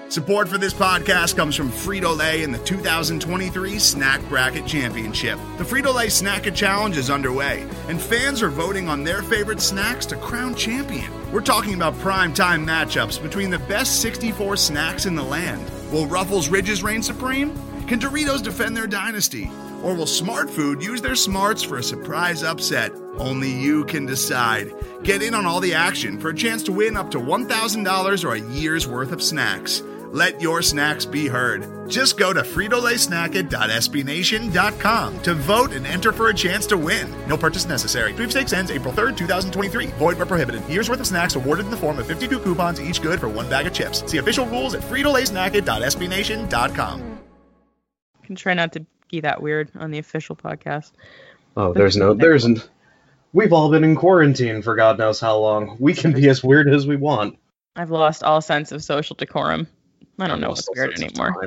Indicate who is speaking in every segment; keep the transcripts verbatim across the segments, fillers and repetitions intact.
Speaker 1: Support for this podcast comes from Frito-Lay and the two thousand twenty-three Snack Bracket Championship. The Frito-Lay Snack-It Challenge is underway, and fans are voting on their favorite snacks to crown champion. We're talking about prime-time matchups between the best sixty-four snacks in the land. Will Ruffles Ridges reign supreme? Can Doritos defend their dynasty? Or will Smart Food use their smarts for a surprise upset? Only you can decide. Get in on all the action for a chance to win up to one thousand dollars or a year's worth of snacks. Let your snacks be heard. Just go to Frito Lay Snack It dot S B Nation dot com to vote and enter for a chance to win. No purchase necessary. Sweepstakes ends April third, twenty twenty-three. Void where prohibited. Year's worth of snacks awarded in the form of fifty-two coupons, each good for one bag of chips. See official rules at Frito Lay Snack It dot S B Nation dot com.
Speaker 2: Can try not to be that weird on the official podcast.
Speaker 3: Oh, there's no, there's an, we've all been in quarantine for God knows how long. We can be as weird as we want.
Speaker 2: I've lost all sense of social decorum. I don't know what's weird anymore.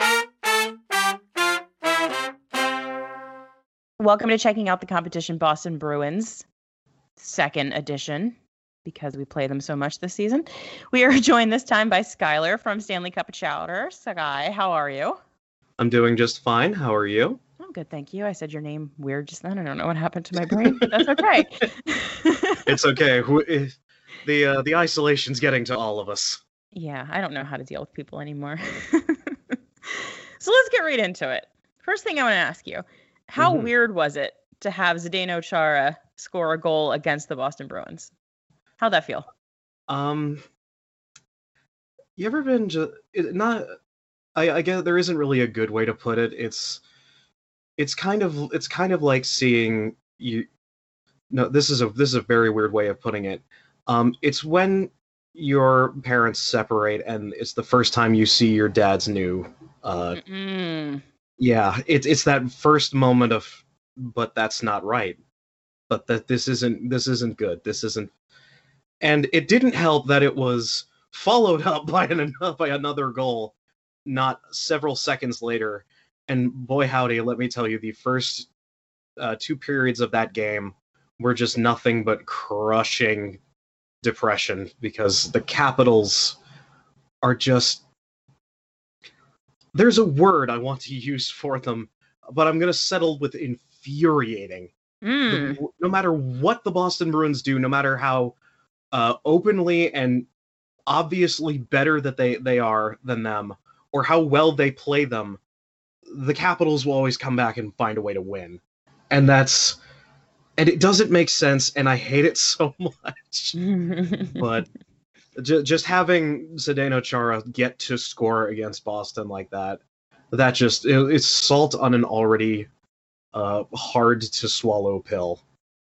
Speaker 2: Welcome to Checking Out the Competition Boston Bruins, second edition, because we play them so much this season. We are joined this time by Skylar from Stanley Cup of Chowder. Sky, how are you?
Speaker 3: I'm doing just fine. How are you?
Speaker 2: I'm good, thank you. I said your name weird just then. I don't know what happened to my brain, but that's okay.
Speaker 3: It's okay. The uh, the isolation's getting to all of us.
Speaker 2: Yeah, I don't know how to deal with people anymore. So let's get right into it. First thing I want to ask you, how mm-hmm. weird was it to have Zdeno Chara score a goal against the Boston Bruins? How'd that feel? Um,
Speaker 3: you ever been just not? I, I guess there isn't really a good way to put it. It's it's kind of it's kind of like seeing you. No, this is a this is a very weird way of putting it. Um, it's when your parents separate and it's the first time you see your dad's new uh Mm-mm. yeah it's it's that first moment of, but that's not right, but that this isn't this isn't good this isn't and it didn't help that it was followed up by an by another goal not several seconds later, and boy howdy, let me tell you, the first uh, two periods of that game were just nothing but crushing depression, because the Capitals are just, there's a word I want to use for them, but I'm going to settle with infuriating. Mm. The, no matter what the Boston Bruins do, no matter how uh, openly and obviously better that they, they are than them, or how well they play them, the Capitals will always come back and find a way to win. And that's, and it doesn't make sense, and I hate it so much. But j- just having Zdeno Chara get to score against Boston like that, that just, it, it's salt on an already uh, hard-to-swallow pill.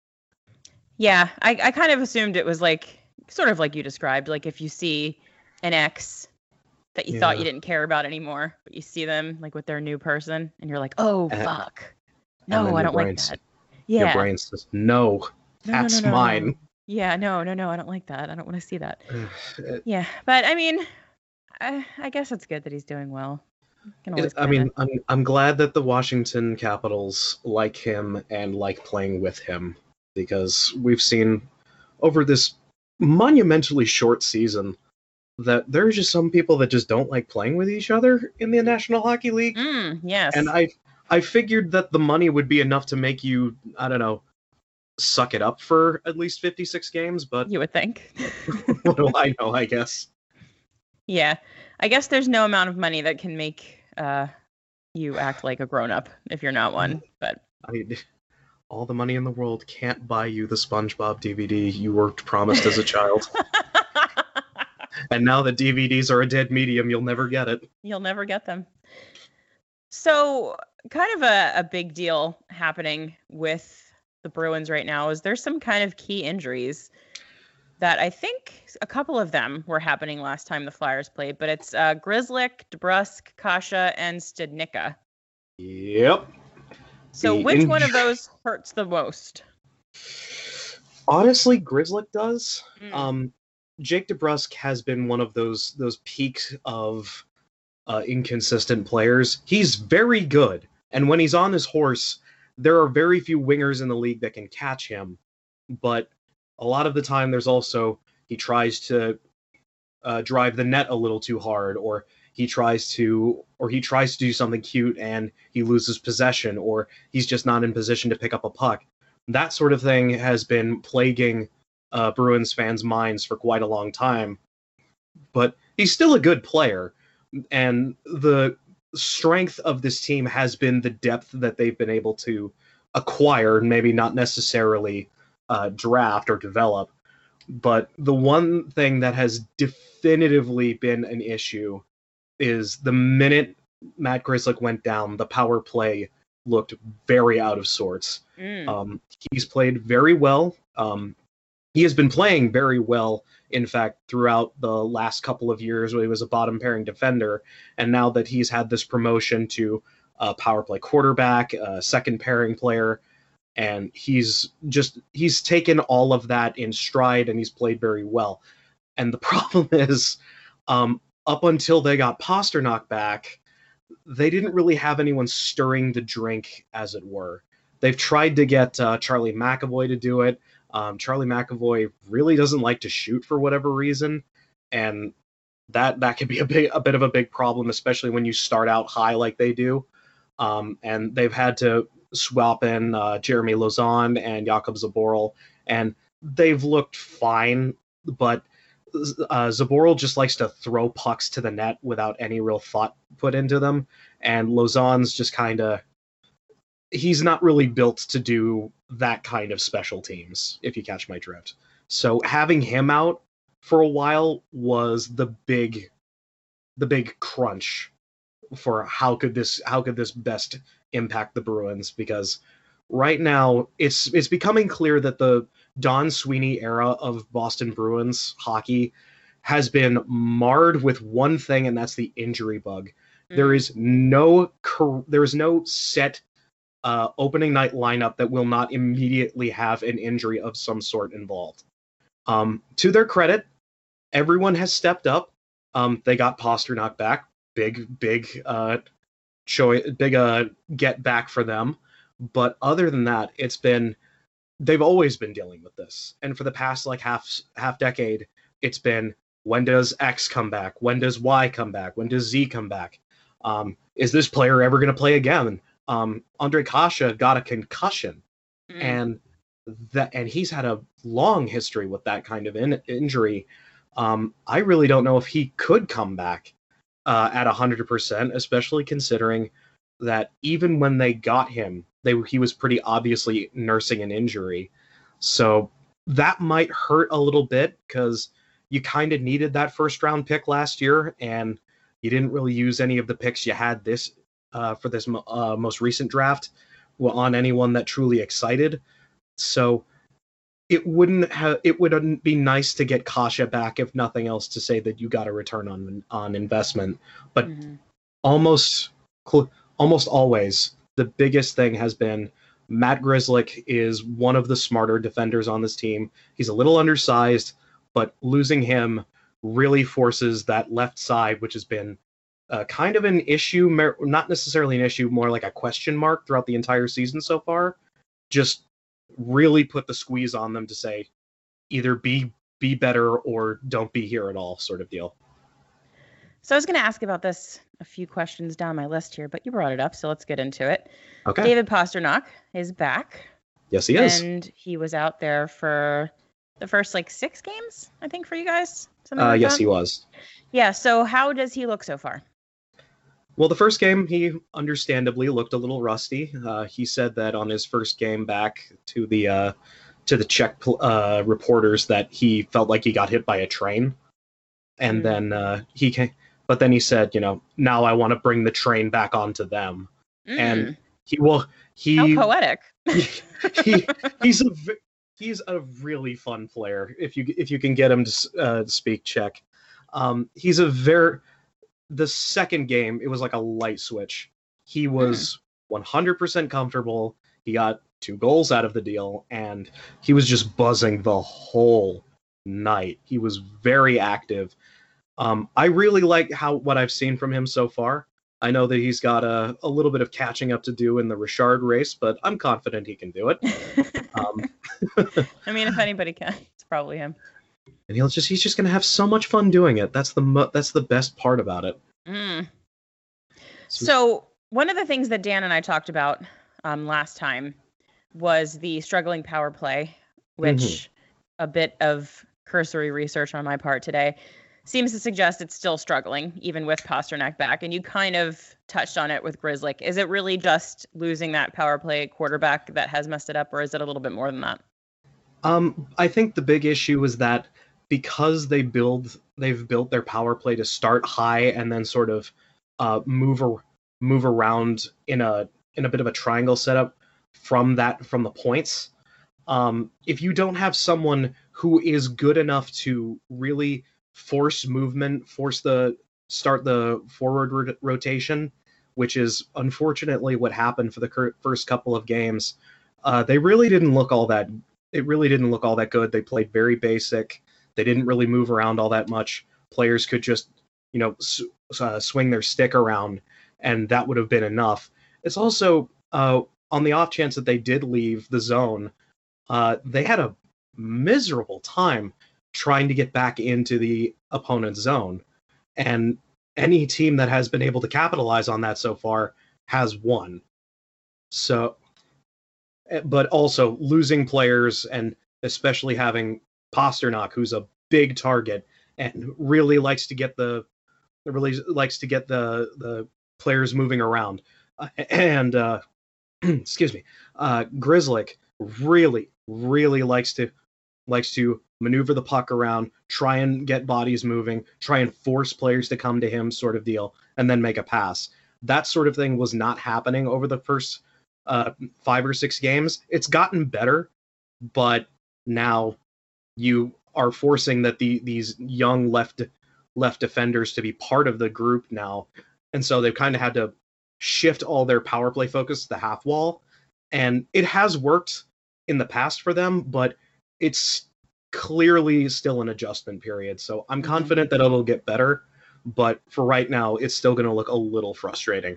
Speaker 2: Yeah, I, I kind of assumed it was like, sort of like you described, like if you see an ex that you yeah. thought you didn't care about anymore, but you see them like with their new person, and you're like, oh, and, fuck. No, I don't like that. Yeah.
Speaker 3: Your brain says, no, no that's
Speaker 2: no, no, no,
Speaker 3: mine.
Speaker 2: No. Yeah, no, no, no, I don't like that. I don't want to see that. Yeah, but I mean, I, I guess it's good that he's doing well.
Speaker 3: It, I mean, I'm, I'm glad that the Washington Capitals like him and like playing with him, because we've seen over this monumentally short season that there's just some people that just don't like playing with each other in the National Hockey League.
Speaker 2: Mm, yes.
Speaker 3: And I I figured that the money would be enough to make you, I don't know, suck it up for at least fifty-six games, but...
Speaker 2: You would think.
Speaker 3: What do I know, I guess?
Speaker 2: Yeah. I guess there's no amount of money that can make uh, you act like a grown-up if you're not one, but...
Speaker 3: I, all the money in the world can't buy you the SpongeBob D V D you were promised as a child. And now that D V Ds are a dead medium, you'll never get it.
Speaker 2: You'll never get them. So, kind of a, a big deal happening with the Bruins right now is there's some kind of key injuries that I think a couple of them were happening last time the Flyers played, but it's uh, Grzelcyk, DeBrusk, Kasha, and Studnicka.
Speaker 3: Yep.
Speaker 2: So the which inj- one of those hurts the most?
Speaker 3: Honestly, Grzelcyk does. Mm. Um, Jake DeBrusk has been one of those those peaks of uh, inconsistent players. He's very good, and when he's on his horse, there are very few wingers in the league that can catch him. But a lot of the time, there's also he tries to uh, drive the net a little too hard, or he tries to or he tries to do something cute and he loses possession, or he's just not in position to pick up a puck. That sort of thing has been plaguing uh, Bruins fans' minds for quite a long time. But he's still a good player, and the strength of this team has been the depth that they've been able to acquire, maybe not necessarily uh, draft or develop. But the one thing that has definitively been an issue is the minute Matt Grzelcyk went down, the power play looked very out of sorts. Mm. Um, he's played very well. Um, he has been playing very well, in fact, throughout the last couple of years when he was a bottom pairing defender. And now that he's had this promotion to a power play quarterback, a second pairing player, and he's just he's taken all of that in stride, and he's played very well. And the problem is, um, up until they got Pastrnak back, they didn't really have anyone stirring the drink, as it were. They've tried to get uh, Charlie McAvoy to do it. Um, Charlie McAvoy really doesn't like to shoot for whatever reason, and that that can be a big a bit of a big problem, especially when you start out high like they do. Um, and they've had to swap in uh, Jeremy Lauzon and Jakub Zboril, and they've looked fine, but uh, Zboril just likes to throw pucks to the net without any real thought put into them, and Lauzon's just kind of he's not really built to do that kind of special teams, if you catch my drift. So having him out for a while was the big the big crunch for how could this how could this best impact the Bruins, because right now it's it's becoming clear that the Don Sweeney era of Boston Bruins hockey has been marred with one thing, and that's the injury bug. Mm. There is no there is no set uh, opening night lineup that will not immediately have an injury of some sort involved. Um, to their credit, everyone has stepped up. Um, they got Pastrnak back. Big, big, uh, show, big, uh, get back for them. But other than that, it's been, they've always been dealing with this. And for the past like half, half decade, it's been, when does X come back? When does Y come back? When does Z come back? Um, is this player ever going to play again? Um, Ondrej Kase got a concussion, mm. and that, and he's had a long history with that kind of in, injury. Um, I really don't know if he could come back uh, at one hundred percent, especially considering that even when they got him, they he was pretty obviously nursing an injury. So that might hurt a little bit, because you kind of needed that first round pick last year, and you didn't really use any of the picks you had this uh, for this uh, most recent draft on anyone that truly excited. So it wouldn't have it would be nice to get Kase back, if nothing else, to say that you got a return on on investment. But mm-hmm. almost almost always the biggest thing has been Matt Grzelcyk is one of the smarter defenders on this team. He's a little undersized, but losing him really forces that left side, which has been uh, kind of an issue, not necessarily an issue, more like a question mark throughout the entire season so far. Just really put the squeeze on them to say either be be better or don't be here at all, sort of deal.
Speaker 2: So I was going to ask about this a few questions down my list here, but you brought it up, so let's get into it.
Speaker 3: Okay.
Speaker 2: David Pastrnak is back.
Speaker 3: Yes, he is.
Speaker 2: And he was out there for the first like six games, I think, for you guys. Something
Speaker 3: uh,
Speaker 2: like
Speaker 3: yes,
Speaker 2: that?
Speaker 3: he was.
Speaker 2: Yeah. So how does he look so far?
Speaker 3: Well, the first game, he understandably looked a little rusty. Uh, he said that on his first game back to the uh, to the Czech uh, reporters that he felt like he got hit by a train, and mm. then uh, he came, but then he said, you know, now I want to bring the train back onto them, mm. and he will. He
Speaker 2: how poetic.
Speaker 3: he, he he's a he's a really fun player if you if you can get him to uh, speak Czech. Um, he's a very The second game, it was like a light switch. He was mm. one hundred percent comfortable. He got two goals out of the deal, and he was just buzzing the whole night. He was very active. Um, I really like how what I've seen from him so far. I know that he's got a, a little bit of catching up to do in the Richard race, but I'm confident he can do it. um,
Speaker 2: I mean, if anybody can, it's probably him.
Speaker 3: and he'll just he's just going to have so much fun doing it. That's the mo- that's the best part about it.
Speaker 2: Mm. So one of the things that Dan and I talked about um, last time was the struggling power play, which mm-hmm. a bit of cursory research on my part today seems to suggest it's still struggling, even with Pastrnak back. And you kind of touched on it with Grzelcyk. Is it really just losing that power play quarterback that has messed it up, or is it a little bit more than that?
Speaker 3: Um, I think the big issue is that because they build, they've built their power play to start high and then sort of uh, move ar- move around in a in a bit of a triangle setup from that from the points. Um, if you don't have someone who is good enough to really force movement, force the start the forward ro- rotation, which is unfortunately what happened for the cur- first couple of games, uh, they really didn't look all that. It really didn't look all that good. They played very basic. They didn't really move around all that much. Players could just, you know, s- uh, swing their stick around, and that would have been enough. It's also uh, on the off chance that they did leave the zone, uh, they had a miserable time trying to get back into the opponent's zone. And any team that has been able to capitalize on that so far has won. So, but also losing players, and especially having Pastrnak, who's a big target and really likes to get the really likes to get the the players moving around. Uh, and uh, excuse me, uh, Grzelcyk really really likes to likes to maneuver the puck around, try and get bodies moving, try and force players to come to him, sort of deal, and then make a pass. That sort of thing was not happening over the first uh, five or six games. It's gotten better, but now you are forcing that the these young left left defenders to be part of the group now, and so they've kind of had to shift all their power play focus to the half wall, and it has worked in the past for them, but it's clearly still an adjustment period. So I'm confident that it'll get better, but for right now, it's still going to look a little frustrating.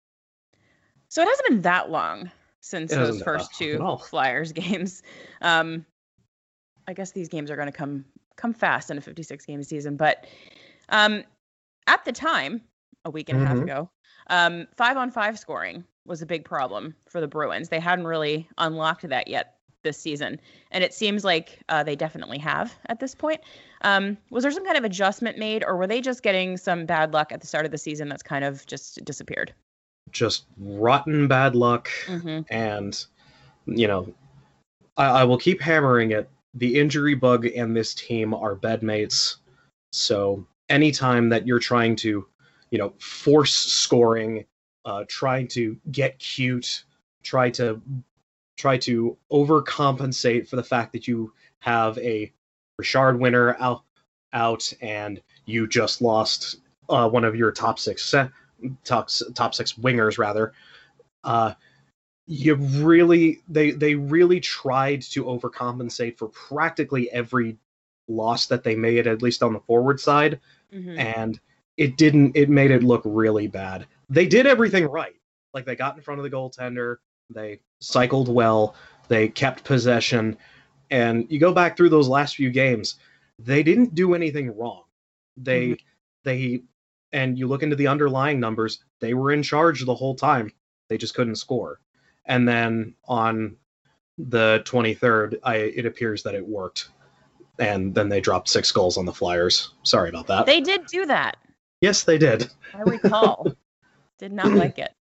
Speaker 2: So it hasn't been that long since
Speaker 3: It
Speaker 2: those first two Flyers games. Um, I guess these games are going to come come fast in a fifty-six game season, but um, at the time, a week and a half
Speaker 3: Mhm.
Speaker 2: ago, um, five on five scoring was a big problem for the Bruins. They hadn't really unlocked that yet this season, and it seems like uh, they definitely have at this point. Um, was there some kind of adjustment made, or were they just getting some bad luck at the start of the season that's kind of just disappeared?
Speaker 3: Just rotten bad luck,
Speaker 2: Mm-hmm.
Speaker 3: and you know, I, I will keep hammering it. The injury bug and this team are bedmates. So anytime that you're trying to, you know, force scoring, uh, trying to get cute, try to try to overcompensate for the fact that you have a Richard winner out, out and you just lost uh, one of your top six set, top, top six wingers rather. Uh, you really they they really tried to overcompensate for practically every loss that they made, at least on the forward side,
Speaker 2: Mm-hmm.
Speaker 3: and it didn't. It made it look really bad. They did everything right. Like, they got in front of the goaltender, they cycled well, they kept possession, and you go back through those last few games, they didn't do anything wrong. They
Speaker 2: Mhm.
Speaker 3: they and you look into the underlying numbers, they were in charge the whole time. They just couldn't score. And then on the twenty-third, I, it appears that it worked. And then they dropped six goals on the Flyers. Sorry about that.
Speaker 2: They did do that.
Speaker 3: Yes, they did.
Speaker 2: I recall. Did not like it.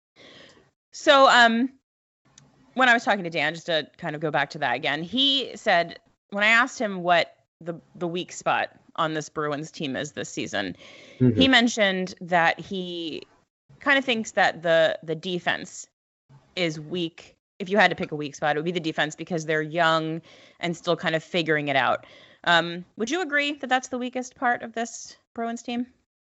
Speaker 2: So, um, when I was talking to Dan, just to kind of go back to that again, he said, when I asked him what the the weak spot on this Bruins team is this season,
Speaker 3: Mm-hmm.
Speaker 2: he mentioned that he kind of thinks that the the defense is weak. If you had to pick a weak spot, it would be the defense, because they're young and still kind of figuring it out. Um, would you agree that that's the weakest part of this Bruins team?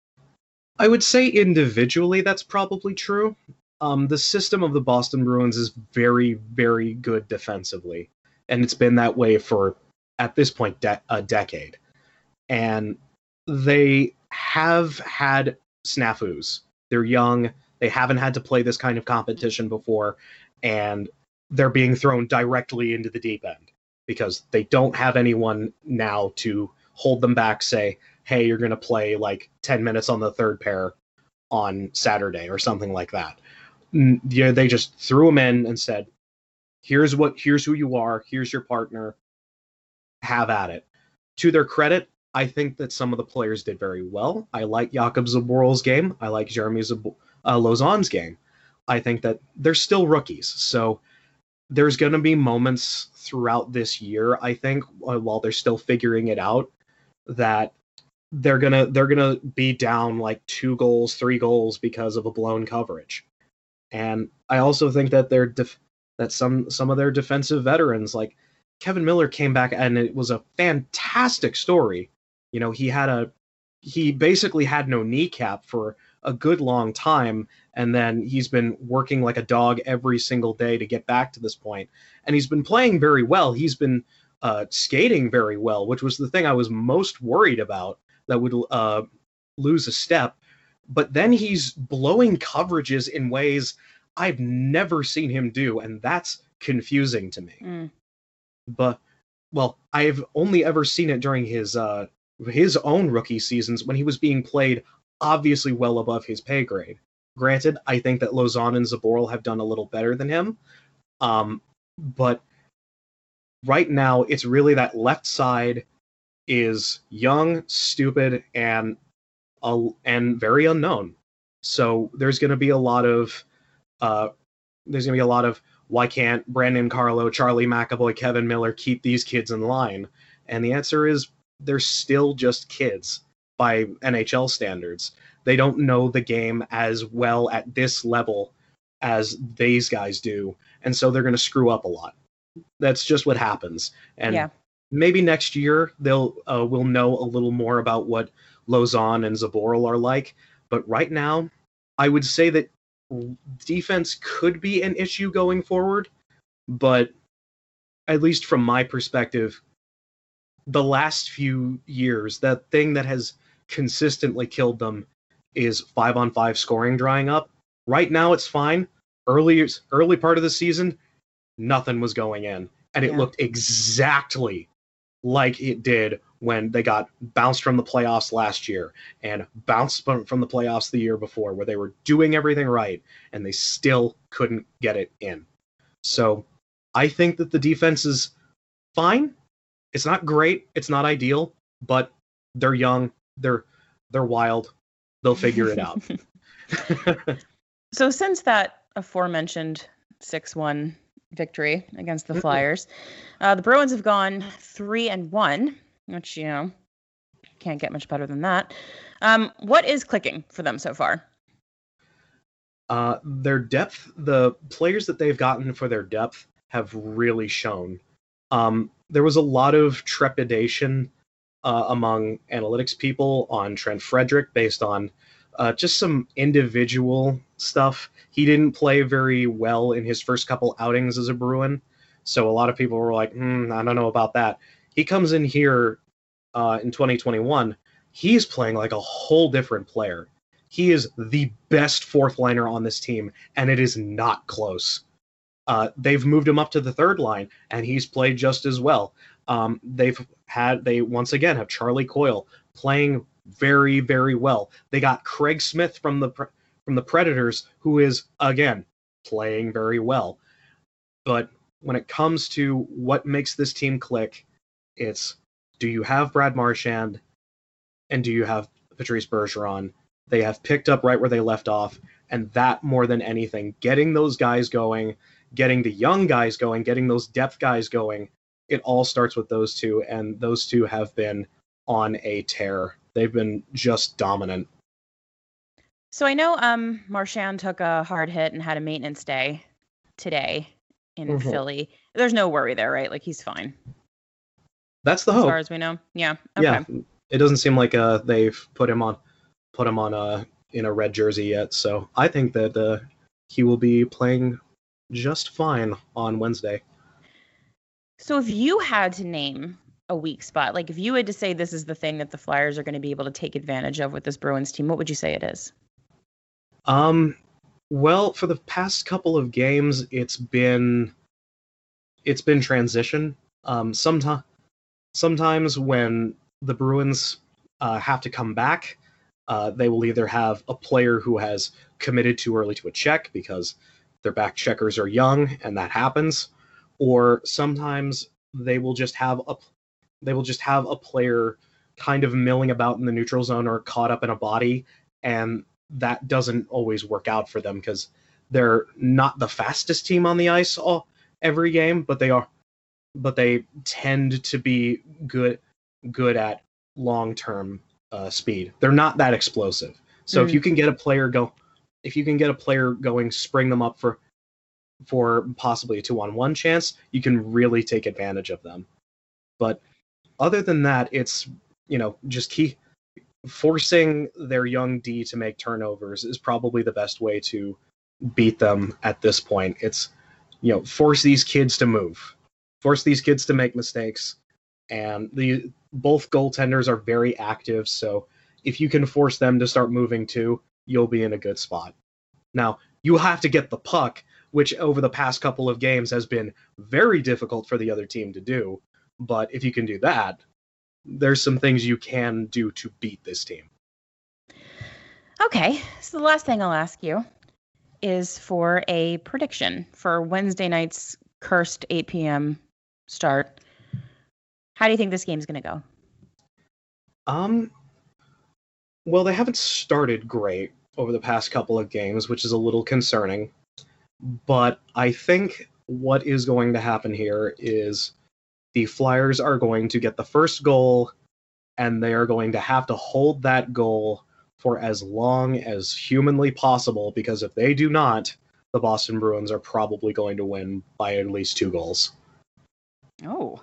Speaker 3: I would say individually that's probably true. Um, the system of the Boston Bruins is very, very good defensively, and it's been that way for, at this point, de- a decade. And they have had snafus. They're young. They haven't had to play this kind of competition before, and they're being thrown directly into the deep end because they don't have anyone now to hold them back, say, hey, you're going to play like ten minutes on the third pair on Saturday or something like that. Yeah, they just threw him in and said, here's what, here's who you are, here's your partner, have at it. To their credit, I think that some of the players did very well. I like Jakub Zaboral's game. I like Jeremy Zab- uh, Lauzon's game. I think that they're still rookies, so there's going to be moments throughout this year, I think, while they're still figuring it out, that they're gonna they're gonna be down like two goals, three goals because of a blown coverage. And I also think that they're def- that some some of their defensive veterans, like Kevin Miller, came back, and it was a fantastic story. You know, he had a he basically had no kneecap for a good long time, and then he's been working like a dog every single day to get back to this point. And he's been playing very well. He's been uh, skating very well, which was the thing I was most worried about, that would uh, lose a step. But then he's blowing coverages in ways I've never seen him do, and that's confusing to me.
Speaker 2: Mm.
Speaker 3: But, well, I've only ever seen it during his uh, his own rookie seasons when he was being played obviously well above his pay grade. Granted, I think that Lauzon and Zaboral have done a little better than him, um, but right now it's really that left side is young, stupid, and uh, and very unknown. So there's going to be a lot of uh, there's going to be a lot of why can't Brandon Carlo, Charlie McAvoy, Kevin Miller keep these kids in line? And the answer is they're still just kids by N H L standards. They don't know the game as well at this level as these guys do, and so they're going to screw up a lot. That's just what happens. And
Speaker 2: yeah.
Speaker 3: maybe next year they'll uh, we'll know a little more about what Lauzon and Zaboral are like. But right now, I would say that defense could be an issue going forward. But at least from my perspective, the last few years, that thing that has consistently killed them is five on five scoring drying up. Right now, it's fine. Early early part of the season, nothing was going in, and it
Speaker 2: Yeah.
Speaker 3: looked exactly like it did when they got bounced from the playoffs last year and bounced from from the playoffs the year before, where they were doing everything right and they still couldn't get it in. So I think that the defense is fine. It's not great. It's not ideal, but they're young. They're they're wild. They'll figure it out.
Speaker 2: So since that aforementioned six one victory against the Flyers, uh, the Bruins have gone three and one, which, you know, can't get much better than that. Um, what is clicking for them so far?
Speaker 3: Uh, their depth, the players that they've gotten for their depth have really shown. Um, there was a lot of trepidation uh, among analytics people on Trent Frederick based on uh, just some individual stuff. He didn't play very well in his first couple outings as a Bruin, so a lot of people were like, hmm, I don't know about that. He comes in here uh, in twenty twenty-one, he's playing like a whole different player. He is the best fourth liner on this team, and it is not close. Uh, they've moved him up to the third line, and he's played just as well. Um, they've had, they once again have Charlie Coyle playing very, very well. They got Craig Smith from the from the Predators, who is, again, playing very well. But when it comes to what makes this team click, it's, do you have Brad Marchand and do you have Patrice Bergeron? They have picked up right where they left off, and that more than anything, getting those guys going, getting the young guys going, getting those depth guys going, it all starts with those two, and those two have been on a tear. They've been just dominant.
Speaker 2: So I know um, Marchand took a hard hit and had a maintenance day today in
Speaker 3: Mhm.
Speaker 2: Philly. There's no worry there, right? Like, he's fine.
Speaker 3: That's the
Speaker 2: As
Speaker 3: hope.
Speaker 2: far as we know. Yeah. Okay.
Speaker 3: Yeah, it doesn't seem like uh, they've put him on put him on a in a red jersey yet. So I think that uh, he will be playing just fine on Wednesday.
Speaker 2: So if you had to name a weak spot, like if you had to say this is the thing that the Flyers are going to be able to take advantage of with this Bruins team, what would you say it is?
Speaker 3: Um, well, for the past couple of games, it's been it's been transition. Um, sometimes sometimes when the Bruins uh, have to come back. Uh, they will either have a player who has committed too early to a check because their back checkers are young, and that happens, or sometimes they will just have a they will just have a player kind of milling about in the neutral zone or caught up in a body, and that doesn't always work out for them because they're not the fastest team on the ice all every game, but they are but they tend to be good good at long-term uh, speed. They're not that explosive. So mm. if you can get a player go if you can get a player going, spring them up for for possibly a two-on-one chance, you can really take advantage of them. But other than that, it's, you know, just keep forcing their young D to make turnovers is probably the best way to beat them at this point. It's, you know, force these kids to move, force these kids to make mistakes, and the both goaltenders are very active, so if you can force them to start moving too, you'll be in a good spot. Now, you have to get the puck, which over the past couple of games has been very difficult for the other team to do, but if you can do that, there's some things you can do to beat this team.
Speaker 2: Okay, so the last thing I'll ask you is for a prediction for Wednesday night's cursed eight p.m. start. How do you think this game's going to go?
Speaker 3: Um, well, they haven't started great over the past couple of games, which is a little concerning. But I think what is going to happen here is the Flyers are going to get the first goal, and they are going to have to hold that goal for as long as humanly possible, because if they do not, the Boston Bruins are probably going to win by at least two goals.
Speaker 2: Oh.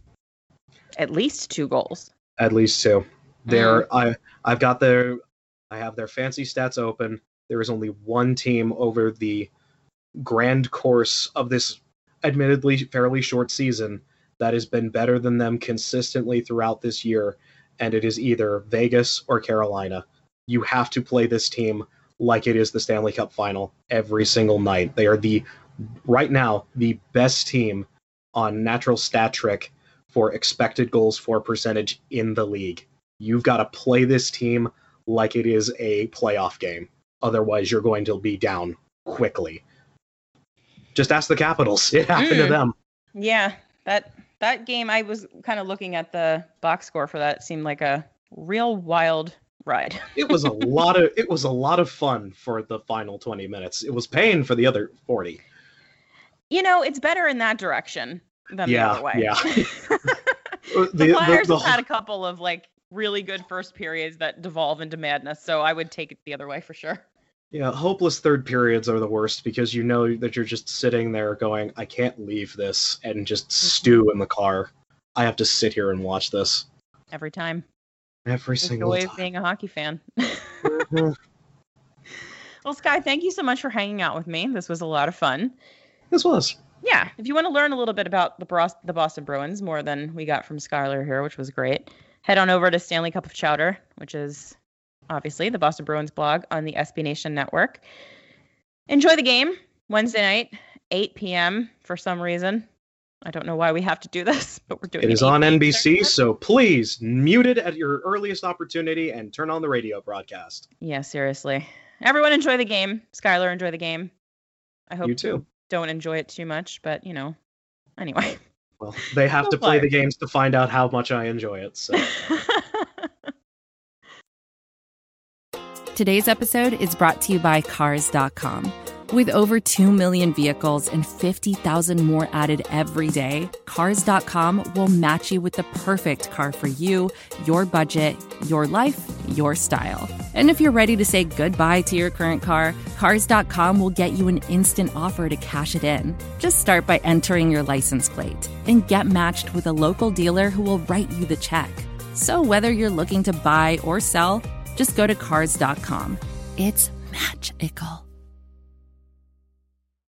Speaker 2: At least two goals.
Speaker 3: At least two. There, mm. I I've got their I have their fancy stats open. There is only one team over the grand course of this admittedly fairly short season that has been better than them consistently throughout this year, and it is either Vegas or Carolina. You have to play this team like it is the Stanley Cup final every single night. They are the, right now, the best team on natural stat trick for expected goals for percentage in the league. You've got to play this team like it is a playoff game. Otherwise, you're going to be down quickly. Just ask the Capitals. It happened mm. to them.
Speaker 2: Yeah, that that game, I was kind of looking at the box score for that. It seemed like a real wild ride.
Speaker 3: it was a lot of it was a lot of fun for the final twenty minutes. It was pain for the other forty.
Speaker 2: You know, it's better in that direction than
Speaker 3: yeah,
Speaker 2: the other way.
Speaker 3: Yeah.
Speaker 2: the, the Flyers the, the, have had a couple of like really good first periods that devolve into madness, so I would take it the other way for sure.
Speaker 3: Yeah, hopeless third periods are the worst because you know that you're just sitting there going, I can't leave this and just stew in the car. I have to sit here and watch this.
Speaker 2: Every time.
Speaker 3: Every
Speaker 2: Just
Speaker 3: single
Speaker 2: the way
Speaker 3: time.
Speaker 2: Of being a hockey fan.
Speaker 3: mm-hmm.
Speaker 2: Well, Sky, thank you so much for hanging out with me. This was a lot of fun.
Speaker 3: This was.
Speaker 2: Yeah, if you want to learn a little bit about the Bros- the Boston Bruins, more than we got from Skylar here, which was great, head on over to Stanley Cup of Chowder, which is obviously the Boston Bruins blog on the S B Nation network. Enjoy the game Wednesday night, eight p.m. for some reason. I don't know why we have to do this, but we're doing it.
Speaker 3: It is on N B C, so please mute it at your earliest opportunity and turn on the radio broadcast.
Speaker 2: Yeah, seriously. Everyone enjoy the game. Skylar, enjoy the game. I hope
Speaker 3: you too.
Speaker 2: You don't enjoy it too much, but, you know, anyway.
Speaker 3: Well, they have to play the games to find out how much I enjoy it, so...
Speaker 4: Today's episode is brought to you by Cars dot com. With over two million vehicles and fifty thousand more added every day, Cars dot com will match you with the perfect car for you, your budget, your life, your style. And if you're ready to say goodbye to your current car, Cars dot com will get you an instant offer to cash it in. Just start by entering your license plate and get matched with a local dealer who will write you the check. So whether you're looking to buy or sell, just go to Cars dot com. It's magical.